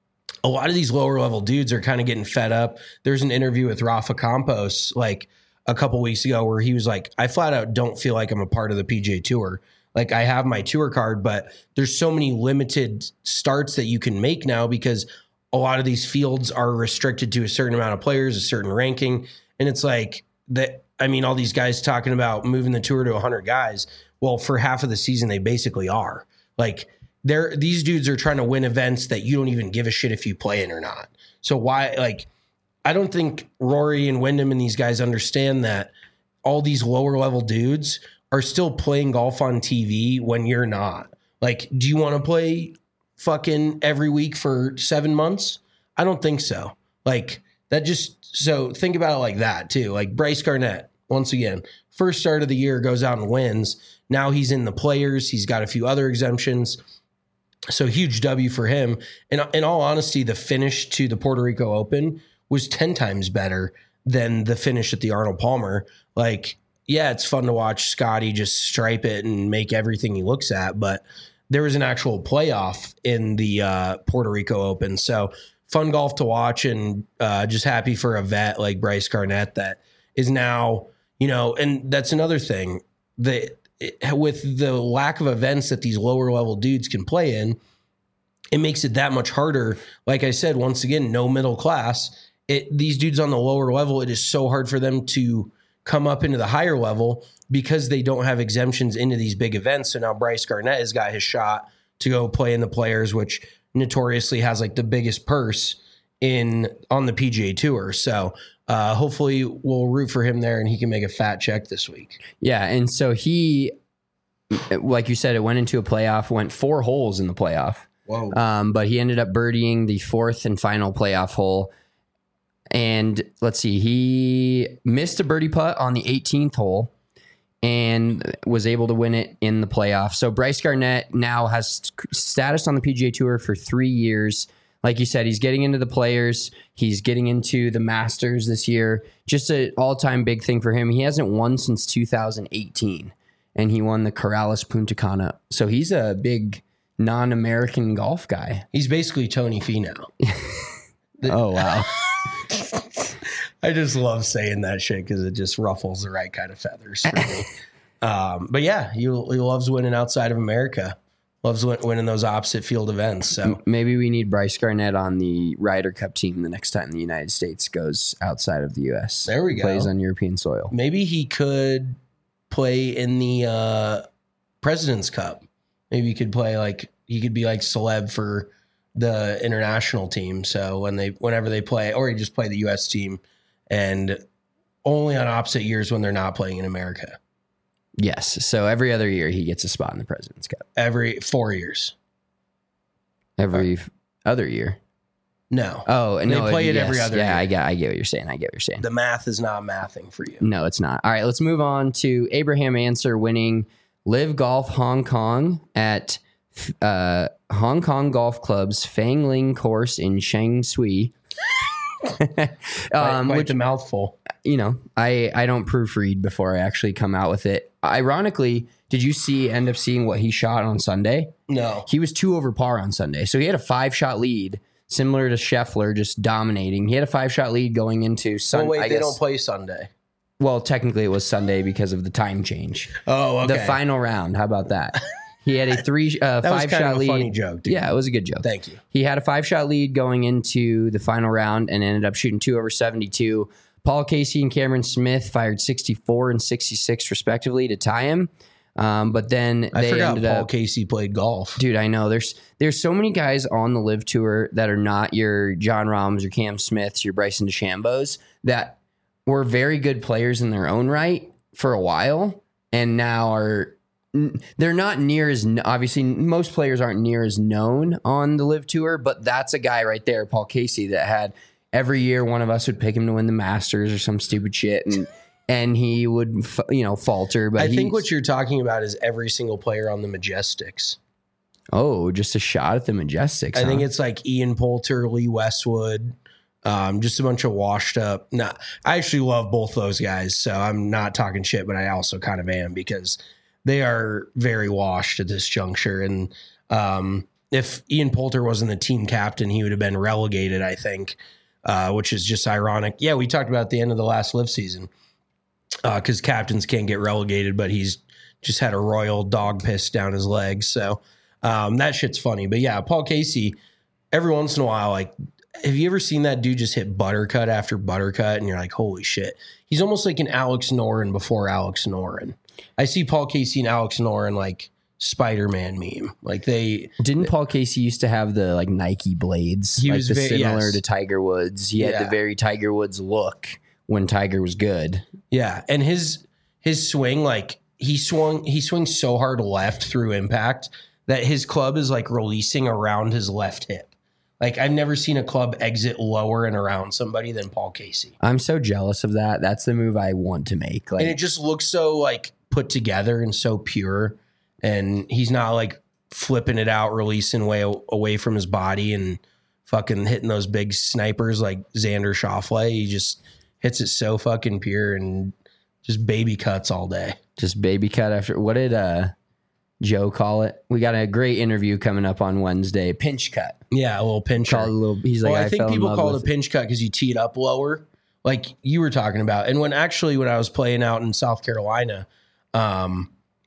a lot of these lower level dudes are kind of getting fed up. There's an interview with Rafa Campos like a couple weeks ago where he was like, I flat out don't feel like I'm a part of the P G A Tour. Like I have my tour card, but there's so many limited starts that you can make now because a lot of these fields are restricted to a certain amount of players, a certain ranking. And it's like that. I mean, all these guys talking about moving the tour to one hundred guys. Well, for half of the season, they basically are. Like they're these dudes are trying to win events that you don't even give a shit if you play in or not. So why, like, I don't think Rory and Wyndham and these guys understand that all these lower level dudes are still playing golf on T V when you're not. Like, do you want to play fucking every week for seven months? I don't think so. Like that just, so think about it like that too. Like Bryce Garnett, once again, first start of the year goes out and wins. Now he's in the players. He's got a few other exemptions. So huge W for him. And in all honesty, the finish to the Puerto Rico Open was ten times better than the finish at the Arnold Palmer. Like, yeah, it's fun to watch Scotty just stripe it and make everything he looks at, but there was an actual playoff in the uh, Puerto Rico Open. So fun golf to watch, and uh, just happy for a vet like Bryce Garnett that is now, you know, and that's another thing that with the lack of events that these lower level dudes can play in, it makes it that much harder. Like I said, once again, no middle class. It, these dudes on the lower level, it is so hard for them to come up into the higher level because they don't have exemptions into these big events. So now Bryce Garnett has got his shot to go play in the Players, which notoriously has like the biggest purse in on the P G A Tour. So uh, hopefully we'll root for him there and he can make a fat check this week. Yeah, and so he, like you said, it went into a playoff, went four holes in the playoff. Whoa. Um, but he ended up birdieing the fourth and final playoff hole. And let's see, he missed a birdie putt on the eighteenth hole and was able to win it in the playoff. So Bryce Garnett now has status on the P G A Tour for three years. Like you said, he's getting into the Players. He's getting into the Masters this year. Just an all-time big thing for him. He hasn't won since two thousand eighteen, and he won the Corrales Punta Cana. So he's a big non-American golf guy. He's basically Tony Finau. Oh, wow. I just love saying that shit because it just ruffles the right kind of feathers for me. um, but yeah, he, he loves winning outside of America. Loves win, winning those opposite field events. So maybe we need Bryce Garnett on the Ryder Cup team the next time the United States goes outside of the U S. There we go. Plays on European soil. Maybe he could play in the uh, President's Cup. Maybe he could play like he could be like celeb for the international team. So when they whenever they play, or he just play the U S team, and only on opposite years when they're not playing in America. Yes. So every other year he gets a spot in the President's Cup. Every four years. Every f- other year. No. Oh, they no. play it yes, every other yeah, year. I get I get what you're saying. I get what you're saying. The math is not mathing for you. No, it's not. All right, let's move on to Abraham Answer winning Live Golf Hong Kong at uh, Hong Kong Golf Club's Fang Ling course in Shang Shui. um, quite which, the mouthful. You know, I, I don't proofread before I actually come out with it. Ironically, did you see end up seeing what he shot on Sunday? No. He was two over par on Sunday. So he had a five shot lead, similar to Scheffler, just dominating. He had a five shot lead going into Sunday. Oh, wait, I they guess, don't play Sunday. Well, technically it was Sunday because of the time change. Oh, okay. The final round. How about that? He had a three, uh, that was five kind shot of a lead. funny joke, dude. Yeah, it was a good joke. Thank you. He had a five shot lead going into the final round and ended up shooting two over seventy-two. Paul Casey and Cameron Smith fired sixty-four and sixty-six respectively to tie him. Um, but then I they forgot ended Paul up, Casey played golf. Dude, I know there's there's so many guys on the Live Tour that are not your John Rahms, your Cam Smiths, your Bryson DeChambos that were very good players in their own right for a while, and now are they're not near as obviously most players aren't near as known on the Live Tour, but that's a guy right there, Paul Casey, that had every year one of us would pick him to win the Masters or some stupid shit, and and he would you know falter. But I think what you're talking about is every single player on the Majestics. Oh, just a shot at the Majestics. I huh? think it's like Ian Poulter, Lee Westwood, um, just a bunch of washed up. Nah, I actually love both those guys, so I'm not talking shit, but I also kind of am because they are very washed at this juncture. And um, if Ian Poulter wasn't the team captain, he would have been relegated, I think, uh, which is just ironic. Yeah, we talked about at the end of the last Live season because uh, captains can't get relegated, but he's just had a royal dog piss down his legs. So um, that shit's funny. But yeah, Paul Casey, every once in a while, like, have you ever seen that dude just hit buttercut after buttercut? And you're like, holy shit. He's almost like an Alex Noren before Alex Noren. I see Paul Casey and Alex Noren like Spider-Man meme. Like they didn't Paul Casey used to have the like Nike blades, he like was the very, similar yes. to Tiger Woods. He Yeah. had the very Tiger Woods look when Tiger was good. Yeah, and his his swing, like he swung, he swings so hard left through impact that his club is like releasing around his left hip. Like I've never seen a club exit lower and around somebody than Paul Casey. I'm so jealous of that. That's the move I want to make. Like, and it just looks so like put together and so pure. And he's not like flipping it out, releasing way away from his body and fucking hitting those big snipers like Xander Schauffele. He just hits it so fucking pure and just baby cuts all day. Just baby cut after. What did uh, Joe call it? We got a great interview coming up on Wednesday. Pinch cut. Yeah, a little pinch. Called a little. He's like, well, I, I think fell in people love call it a with pinch cut because you tee it up lower, like you were talking about. And when actually when I was playing out in South Carolina, um,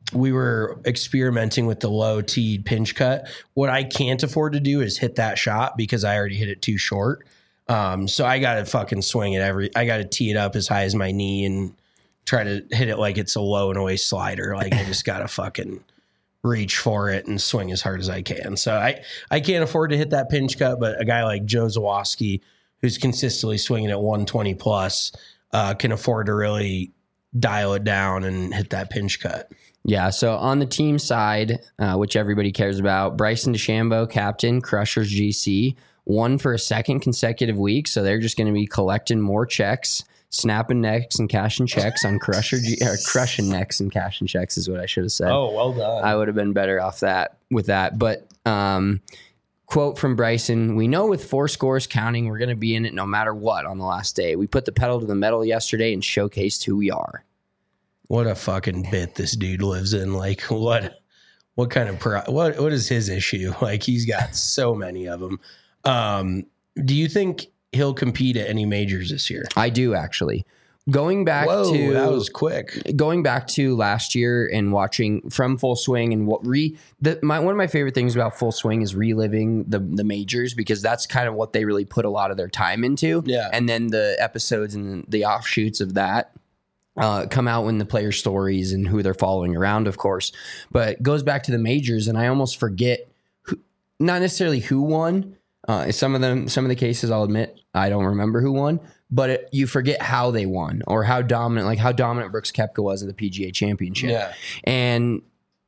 we were experimenting with the low teed pinch cut. What I can't afford to do is hit that shot because I already hit it too short. Um, so I got to fucking swing it every, I got to tee it up as high as my knee and try to hit it like it's a low and away slider. Like I just got to fucking reach for it and swing as hard as I can. So I, I can't afford to hit that pinch cut, but a guy like Joe Zawoski, who's consistently swinging at one twenty plus, uh, can afford to really dial it down and hit that pinch cut. Yeah, so on the team side, uh, which everybody cares about, Bryson DeChambeau, captain, Crushers G C, won for a second consecutive week. So they're just going to be collecting more checks, snapping necks and cashing checks on Crusher G, or crushing necks and cashing checks is what I should have said. Oh, well done. I would have been better off that with that. But um, quote from Bryson, "We know with four scores counting, we're going to be in it no matter what on the last day. We put the pedal to the metal yesterday and showcased who we are." What a fucking bit this dude lives in. Like what, what kind of, pro, what, what is his issue? Like he's got so many of them. Um, do you think he'll compete at any majors this year? I do actually. Going back Whoa, to that was quick. Going back to last year and watching from Full Swing and what re the, my one of my favorite things about Full Swing is reliving the the majors because that's kind of what they really put a lot of their time into. Yeah, and then the episodes and the offshoots of that uh, come out when the player stories and who they're following around, of course. But it goes back to the majors, and I almost forget who, not necessarily who won. Uh, some of them, some of the cases, I'll admit, I don't remember who won, but it, you forget how they won or how dominant, like how dominant Brooks Koepka was at the P G A Championship. Yeah. And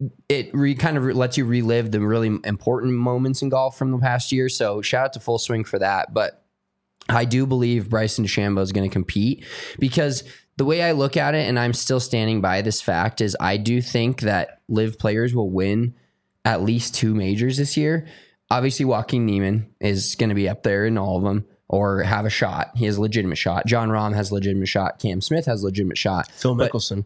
it re, kind of lets you relive the really important moments in golf from the past year. So shout out to Full Swing for that. But I do believe Bryson DeChambeau is going to compete because the way I look at it, and I'm still standing by this fact, is I do think that live players will win at least two majors this year. Obviously, Joaquin Niemann is going to be up there in all of them or have a shot. He has a legitimate shot. John Rahm has a legitimate shot. Cam Smith has a legitimate shot. Phil But- Mickelson.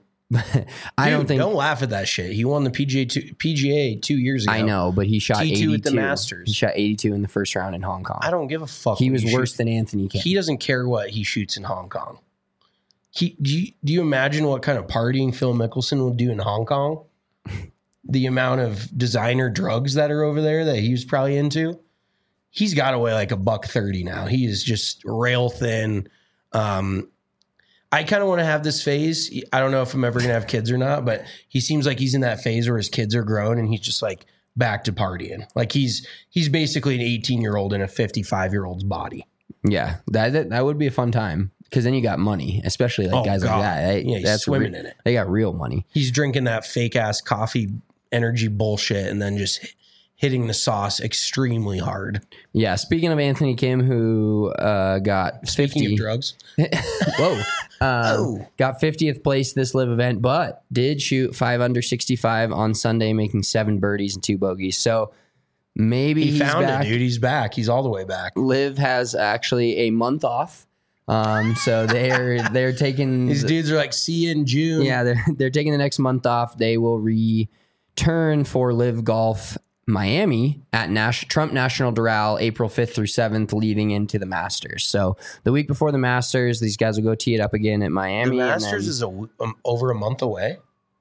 I Dude, don't think. Don't laugh at that shit. He won the P G A two, P G A two years ago. I know, but he shot T two eighty-two at the Masters. He shot eighty-two in the first round in Hong Kong. I don't give a fuck. He what was worse shoot. than Anthony Kim. He doesn't care what he shoots in Hong Kong. He do you, do you imagine what kind of partying Phil Mickelson would do in Hong Kong? The amount of designer drugs that are over there that he was probably into. He's got to weigh like a buck thirty now. He is just rail thin. Um, I kind of want to have this phase. I don't know if I'm ever going to have kids or not, but he seems like he's in that phase where his kids are grown and he's just like back to partying. Like he's he's basically an eighteen year old in a fifty-five year old's body. Yeah, that, that that would be a fun time because then you got money, especially like Oh, guys God. like that. They, Yeah, he's that's swimming re- in it. They got real money. He's drinking that fake ass coffee energy bullshit and then just hitting the sauce extremely hard. Yeah. Speaking of Anthony Kim, who uh, got Speaking fifty of drugs. Whoa. Uh, Oh. Got fiftieth place this live event, but did shoot five under sixty-five on Sunday, making seven birdies and two bogeys. So maybe He he's found back. it, dude. He's back. He's all the way back. Liv has actually a month off. Um, so they're they're taking These dudes are like, see you in June. yeah, they're they're taking the next month off. They will return for Live Golf Miami at Nash, Trump National Doral April fifth through seventh, leading into the Masters. So the week before the Masters, these guys will go tee it up again at The Miami. and Masters then- is a, w- um, over a month away.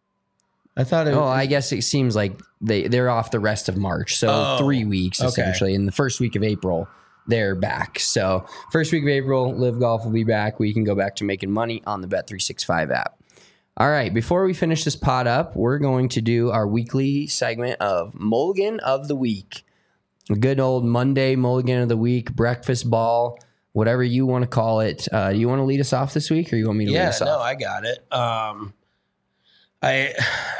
I thought it Oh, I guess it seems like they, they're off the rest of March. So Oh, three weeks okay. essentially. In the first week of April, they're back. So first week of April, Live Golf will be back. We can go back to making money on the Bet three sixty-five app. All right, before we finish this pod up, we're going to do our weekly segment of Mulligan of the Week. A good old Monday Mulligan of the Week, breakfast ball, whatever you want to call it. Uh, do you want to lead us off this week or you want me to lead yeah, us no, off? I got it. Um, I,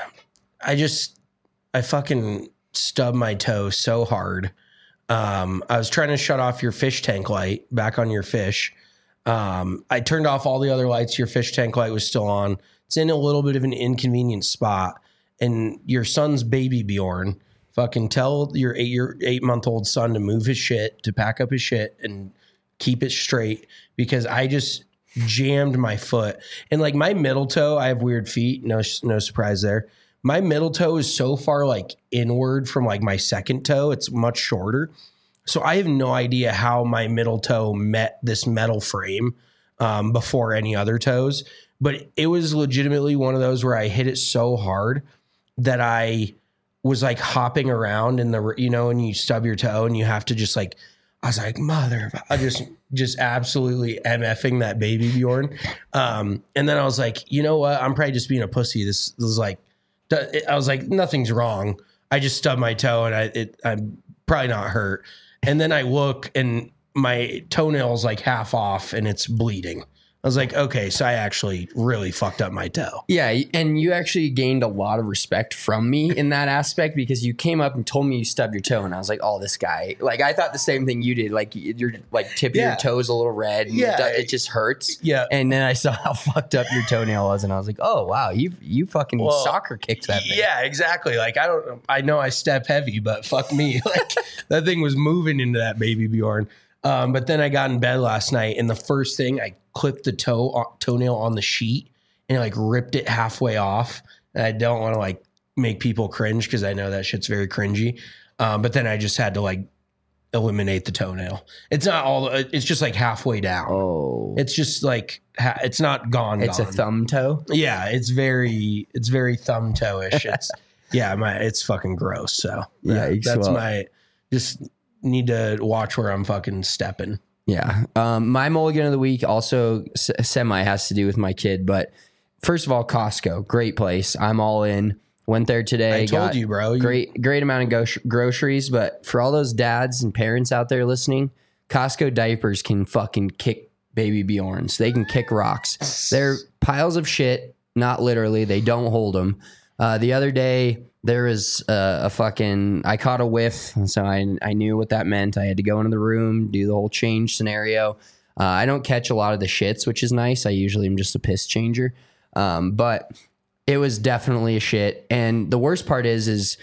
I just, I fucking stubbed my toe so hard. Um, I was trying to shut off your fish tank light back on your fish. Um, I turned off all the other lights. Your fish tank light was still on. It's in a little bit of an inconvenient spot. And your son's baby Bjorn, fucking tell your eight your eight month old son to move his shit, to pack up his shit and keep it straight, because I just jammed my foot. And like my middle toe, I have weird feet. No, no surprise there. My middle toe is so far like inward from like my second toe. It's much shorter. So I have no idea how my middle toe met this metal frame um, before any other toes. But it was legitimately one of those where I hit it so hard that I was like hopping around in the, you know, and you stub your toe and you have to just like, I was like, mother, I just, just absolutely MFing that baby Bjorn. Um, and then I was like, you know what? I'm probably just being a pussy. This, this was like, I was like, nothing's wrong. I just stubbed my toe and I, it, I'm probably not hurt. And then I look and my toenail's like half off and it's bleeding. I was like, okay, so I actually really fucked up my toe. Yeah, and you actually gained a lot of respect from me in that aspect because you came up and told me you stubbed your toe, and I was like, oh, this guy. Like, I thought the same thing you did. Like, your like tip of Yeah. your toe's a little red. And Yeah. it, it just hurts. Yeah. And then I saw how fucked up your toenail was, and I was like, oh, wow, you you fucking Well, soccer kicked that thing. Yeah, exactly. Like, I don't, I know I step heavy, but fuck me. Like, that thing was moving into that baby Bjorn. Um, but then I got in bed last night, and the first thing I clipped the toe toenail on the sheet and like ripped it halfway off. And I don't want to like make people cringe because I know that shit's very cringy. Um, but then I just had to like eliminate the toenail. It's not all. It's just like halfway down. Oh, It's just like ha- it's not gone. it's gone. a thumb toe. Yeah, it's very it's very thumb toe-ish. It's yeah, my it's fucking gross. So yeah, Yikes, that's well. my just need to watch where I'm fucking stepping. Yeah. Um, my mulligan of the week also s- semi has to do with my kid. But first of all, Costco, great place. I'm all in. Went there today. I told got you, bro. You- Great, great amount of go- groceries. But for all those dads and parents out there listening, Costco diapers can fucking kick baby Bjorns. They can kick rocks. They're piles of shit. Not literally. They don't hold them. Uh, the other day, there was uh, a fucking, I caught a whiff. And so I, I knew what that meant. I had to go into the room, do the whole change scenario. Uh, I don't catch a lot of the shits, which is nice. I usually am just a piss changer. Um, but it was definitely a shit. And the worst part is, is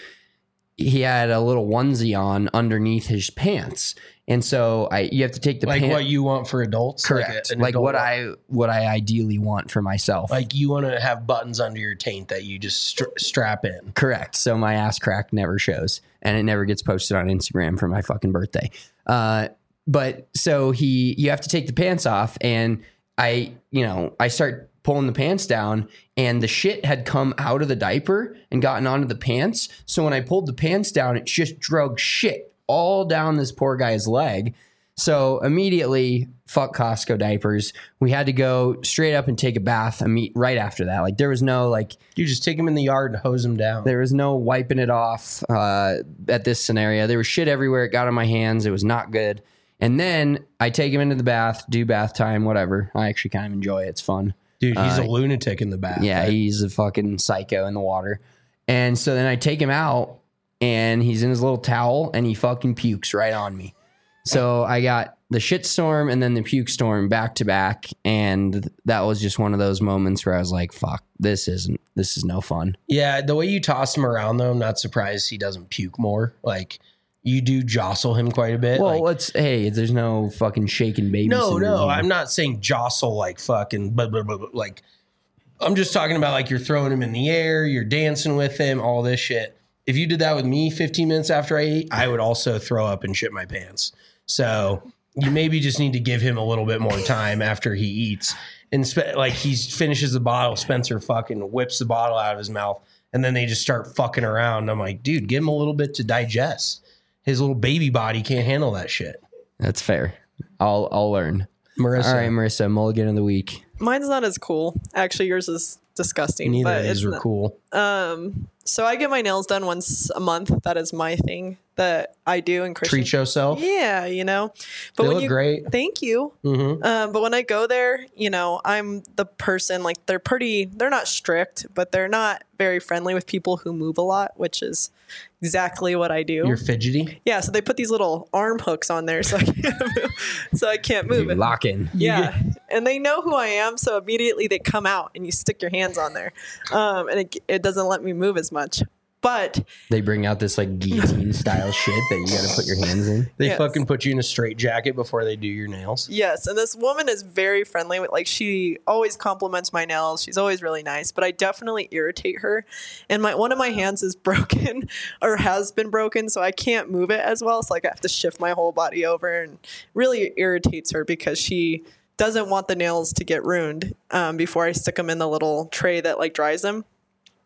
he had a little onesie on underneath his pants. And so I, you have to take the like pant- what you want for adults, correct, Like, a- an like adult what one. I what I ideally want for myself. like. You want to have buttons under your taint that you just stra- strap in. Correct. So my ass crack never shows, and it never gets posted on Instagram for my fucking birthday. Uh, but so he, you have to take the pants off, and I, you know, I start pulling the pants down, and the shit had come out of the diaper and gotten onto the pants. So when I pulled the pants down, it just drug shit all down this poor guy's leg. So immediately, fuck Costco diapers. We had to go straight up and take a bath imme- right after that. Like, there was no like. You just take them in the yard and hose them down. There was no wiping it off uh, at this scenario. There was shit everywhere. It got on my hands. It was not good. And then I take him into the bath, do bath time, whatever. I actually kind of enjoy it. It's fun. Dude, he's Uh, a lunatic in the bath. Yeah, right? he's a fucking psycho in the water. And so then I take him out, and he's in his little towel, and he fucking pukes right on me. So I got the shit storm and then the puke storm back to back. And that was just one of those moments where I was like, fuck, this isn't, this is no fun. Yeah, the way you toss him around, though, I'm not surprised he doesn't puke more. Like, you do jostle him quite a bit. Well, like, it's, hey, there's no fucking shaking baby. no, syndrome no, here. I'm not saying jostle like fucking, blah, blah, blah, blah, like, I'm just talking about like you're throwing him in the air, you're dancing with him, all this shit. If you did that with me fifteen minutes after I ate, I would also throw up and shit my pants. So you maybe just need to give him a little bit more time after he eats. And spe- like he finishes the bottle, Spencer fucking whips the bottle out of his mouth, and then they just start fucking around. I'm like, dude, give him a little bit to digest. His little baby body can't handle that shit. That's fair. I'll I'll learn. Marissa, All right, Marissa, mulligan of the week. Mine's not as cool. Actually, yours is disgusting. neither but of these it's were not- cool. Um, so I get my nails done once a month. That is my thing that I do. And Christian, Treat yourself. yeah, you know. But They when look you, great. Thank you. Mm-hmm. Um, but when I go there, you know, I'm the person, like, they're pretty, they're not strict, but they're not very friendly with people who move a lot, which is exactly what I do. You're fidgety. Yeah, so they put these little arm hooks on there so I can't move. So I can't move You it. lock in. Yeah, and they know who I am, so immediately they come out and you stick your hands on there, um, and it, it doesn't let me move as much. But They bring out this like guillotine style shit that you got to put your hands in. They Yes. fucking put you in a straight jacket before they do your nails. yes, and this woman is very friendly. With like, she always compliments my nails. She's always really nice, but I definitely irritate her. And my one of my hands is broken or has been broken, so I can't move it as well. So like I have to shift my whole body over, and really irritates her because she doesn't want the nails to get ruined um, before I stick them in the little tray that like dries them.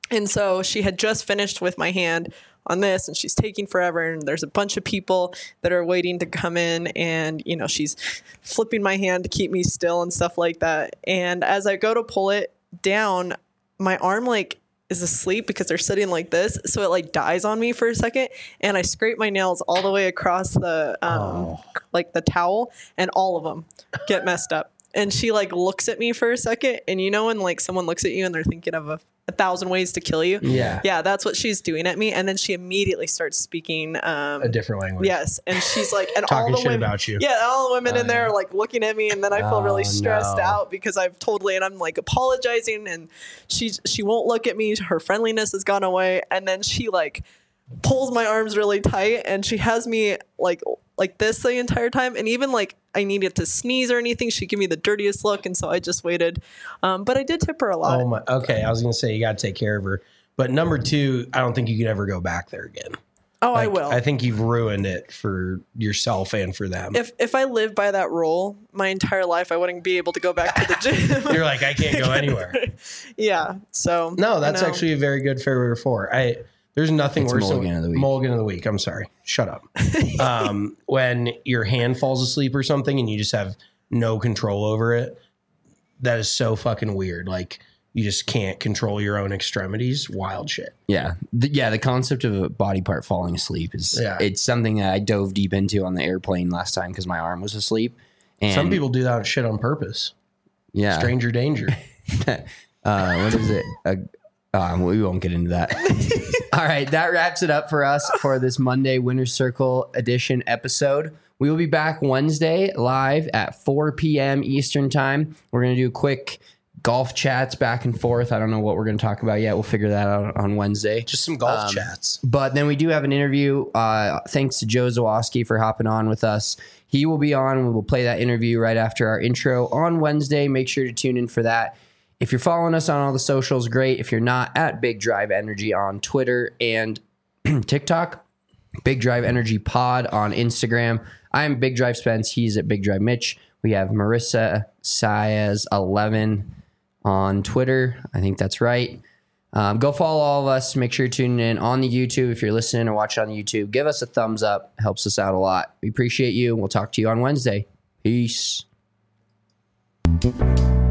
And so she had just finished with my hand on this, and she's taking forever, and there's a bunch of people that are waiting to come in, and you know, she's flipping my hand to keep me still and stuff like that. And as I go to pull it down, my arm like is asleep because they're sitting like this, so it like dies on me for a second, and I scrape my nails all the way across the um oh. like the towel, and all of them get messed up. And she like looks at me for a second, and you know when like someone looks at you and they're thinking of a, a thousand ways to kill you? Yeah. Yeah, that's what she's doing at me. And then she immediately starts speaking um, a different language. Yes. And she's like, and talking all the shit women, about you. Yeah, all the women uh, in there yeah. are like looking at me, and then I feel Oh, really stressed no. out because I've totally, and I'm like apologizing, and she she won't look at me. Her friendliness has gone away. And then she like pulls my arms really tight, and she has me like like this the entire time. And even like I needed to sneeze or anything, she gave me the dirtiest look, and so I just waited. Um, but I did tip her a lot. Oh my. Okay, I was gonna say you got to take care of her, but number two, I don't think you could ever go back there again. Oh, like, I will. I think you've ruined it for yourself and for them. If if I lived by that rule my entire life, I wouldn't be able to go back to the gym. You're like, I can't go anywhere. Yeah. So no, that's you know. actually a very good favorite four. I there's nothing It's worse mulligan than of the week. mulligan of the week. I'm sorry. Shut up. um, when your hand falls asleep or something and you just have no control over it, that is so fucking weird. Like you just can't control your own extremities. Wild shit. Yeah. The, yeah. The concept of a body part falling asleep is Yeah. it's something that I dove deep into on the airplane last time because my arm was asleep. And Some people do that shit on purpose. yeah. Stranger danger. uh, what is it? Uh, uh, we won't get into that. All right. That wraps it up for us for this Monday Winner's Circle edition episode. We will be back Wednesday live at four p.m. Eastern time. We're going to do quick golf chats back and forth. I don't know what we're going to talk about yet. We'll figure that out on Wednesday. Just some golf Um, chats. But then we do have an interview. Uh, thanks to Joe Zawoski for hopping on with us. He will be on. We will play that interview right after our intro on Wednesday. Make sure to tune in for that. If you're following us on all the socials, great. If you're not, at Big Drive Energy on Twitter and TikTok, Big Drive Energy Pod on Instagram. I'm Big Drive Spence. He's at Big Drive Mitch. We have Marissa Saez eleven on Twitter. I think that's right. Um, go follow all of us. Make sure you're tuning in on the YouTube. If you're listening or watching on the YouTube, give us a thumbs up. Helps us out a lot. We appreciate you. We'll talk to you on Wednesday. Peace.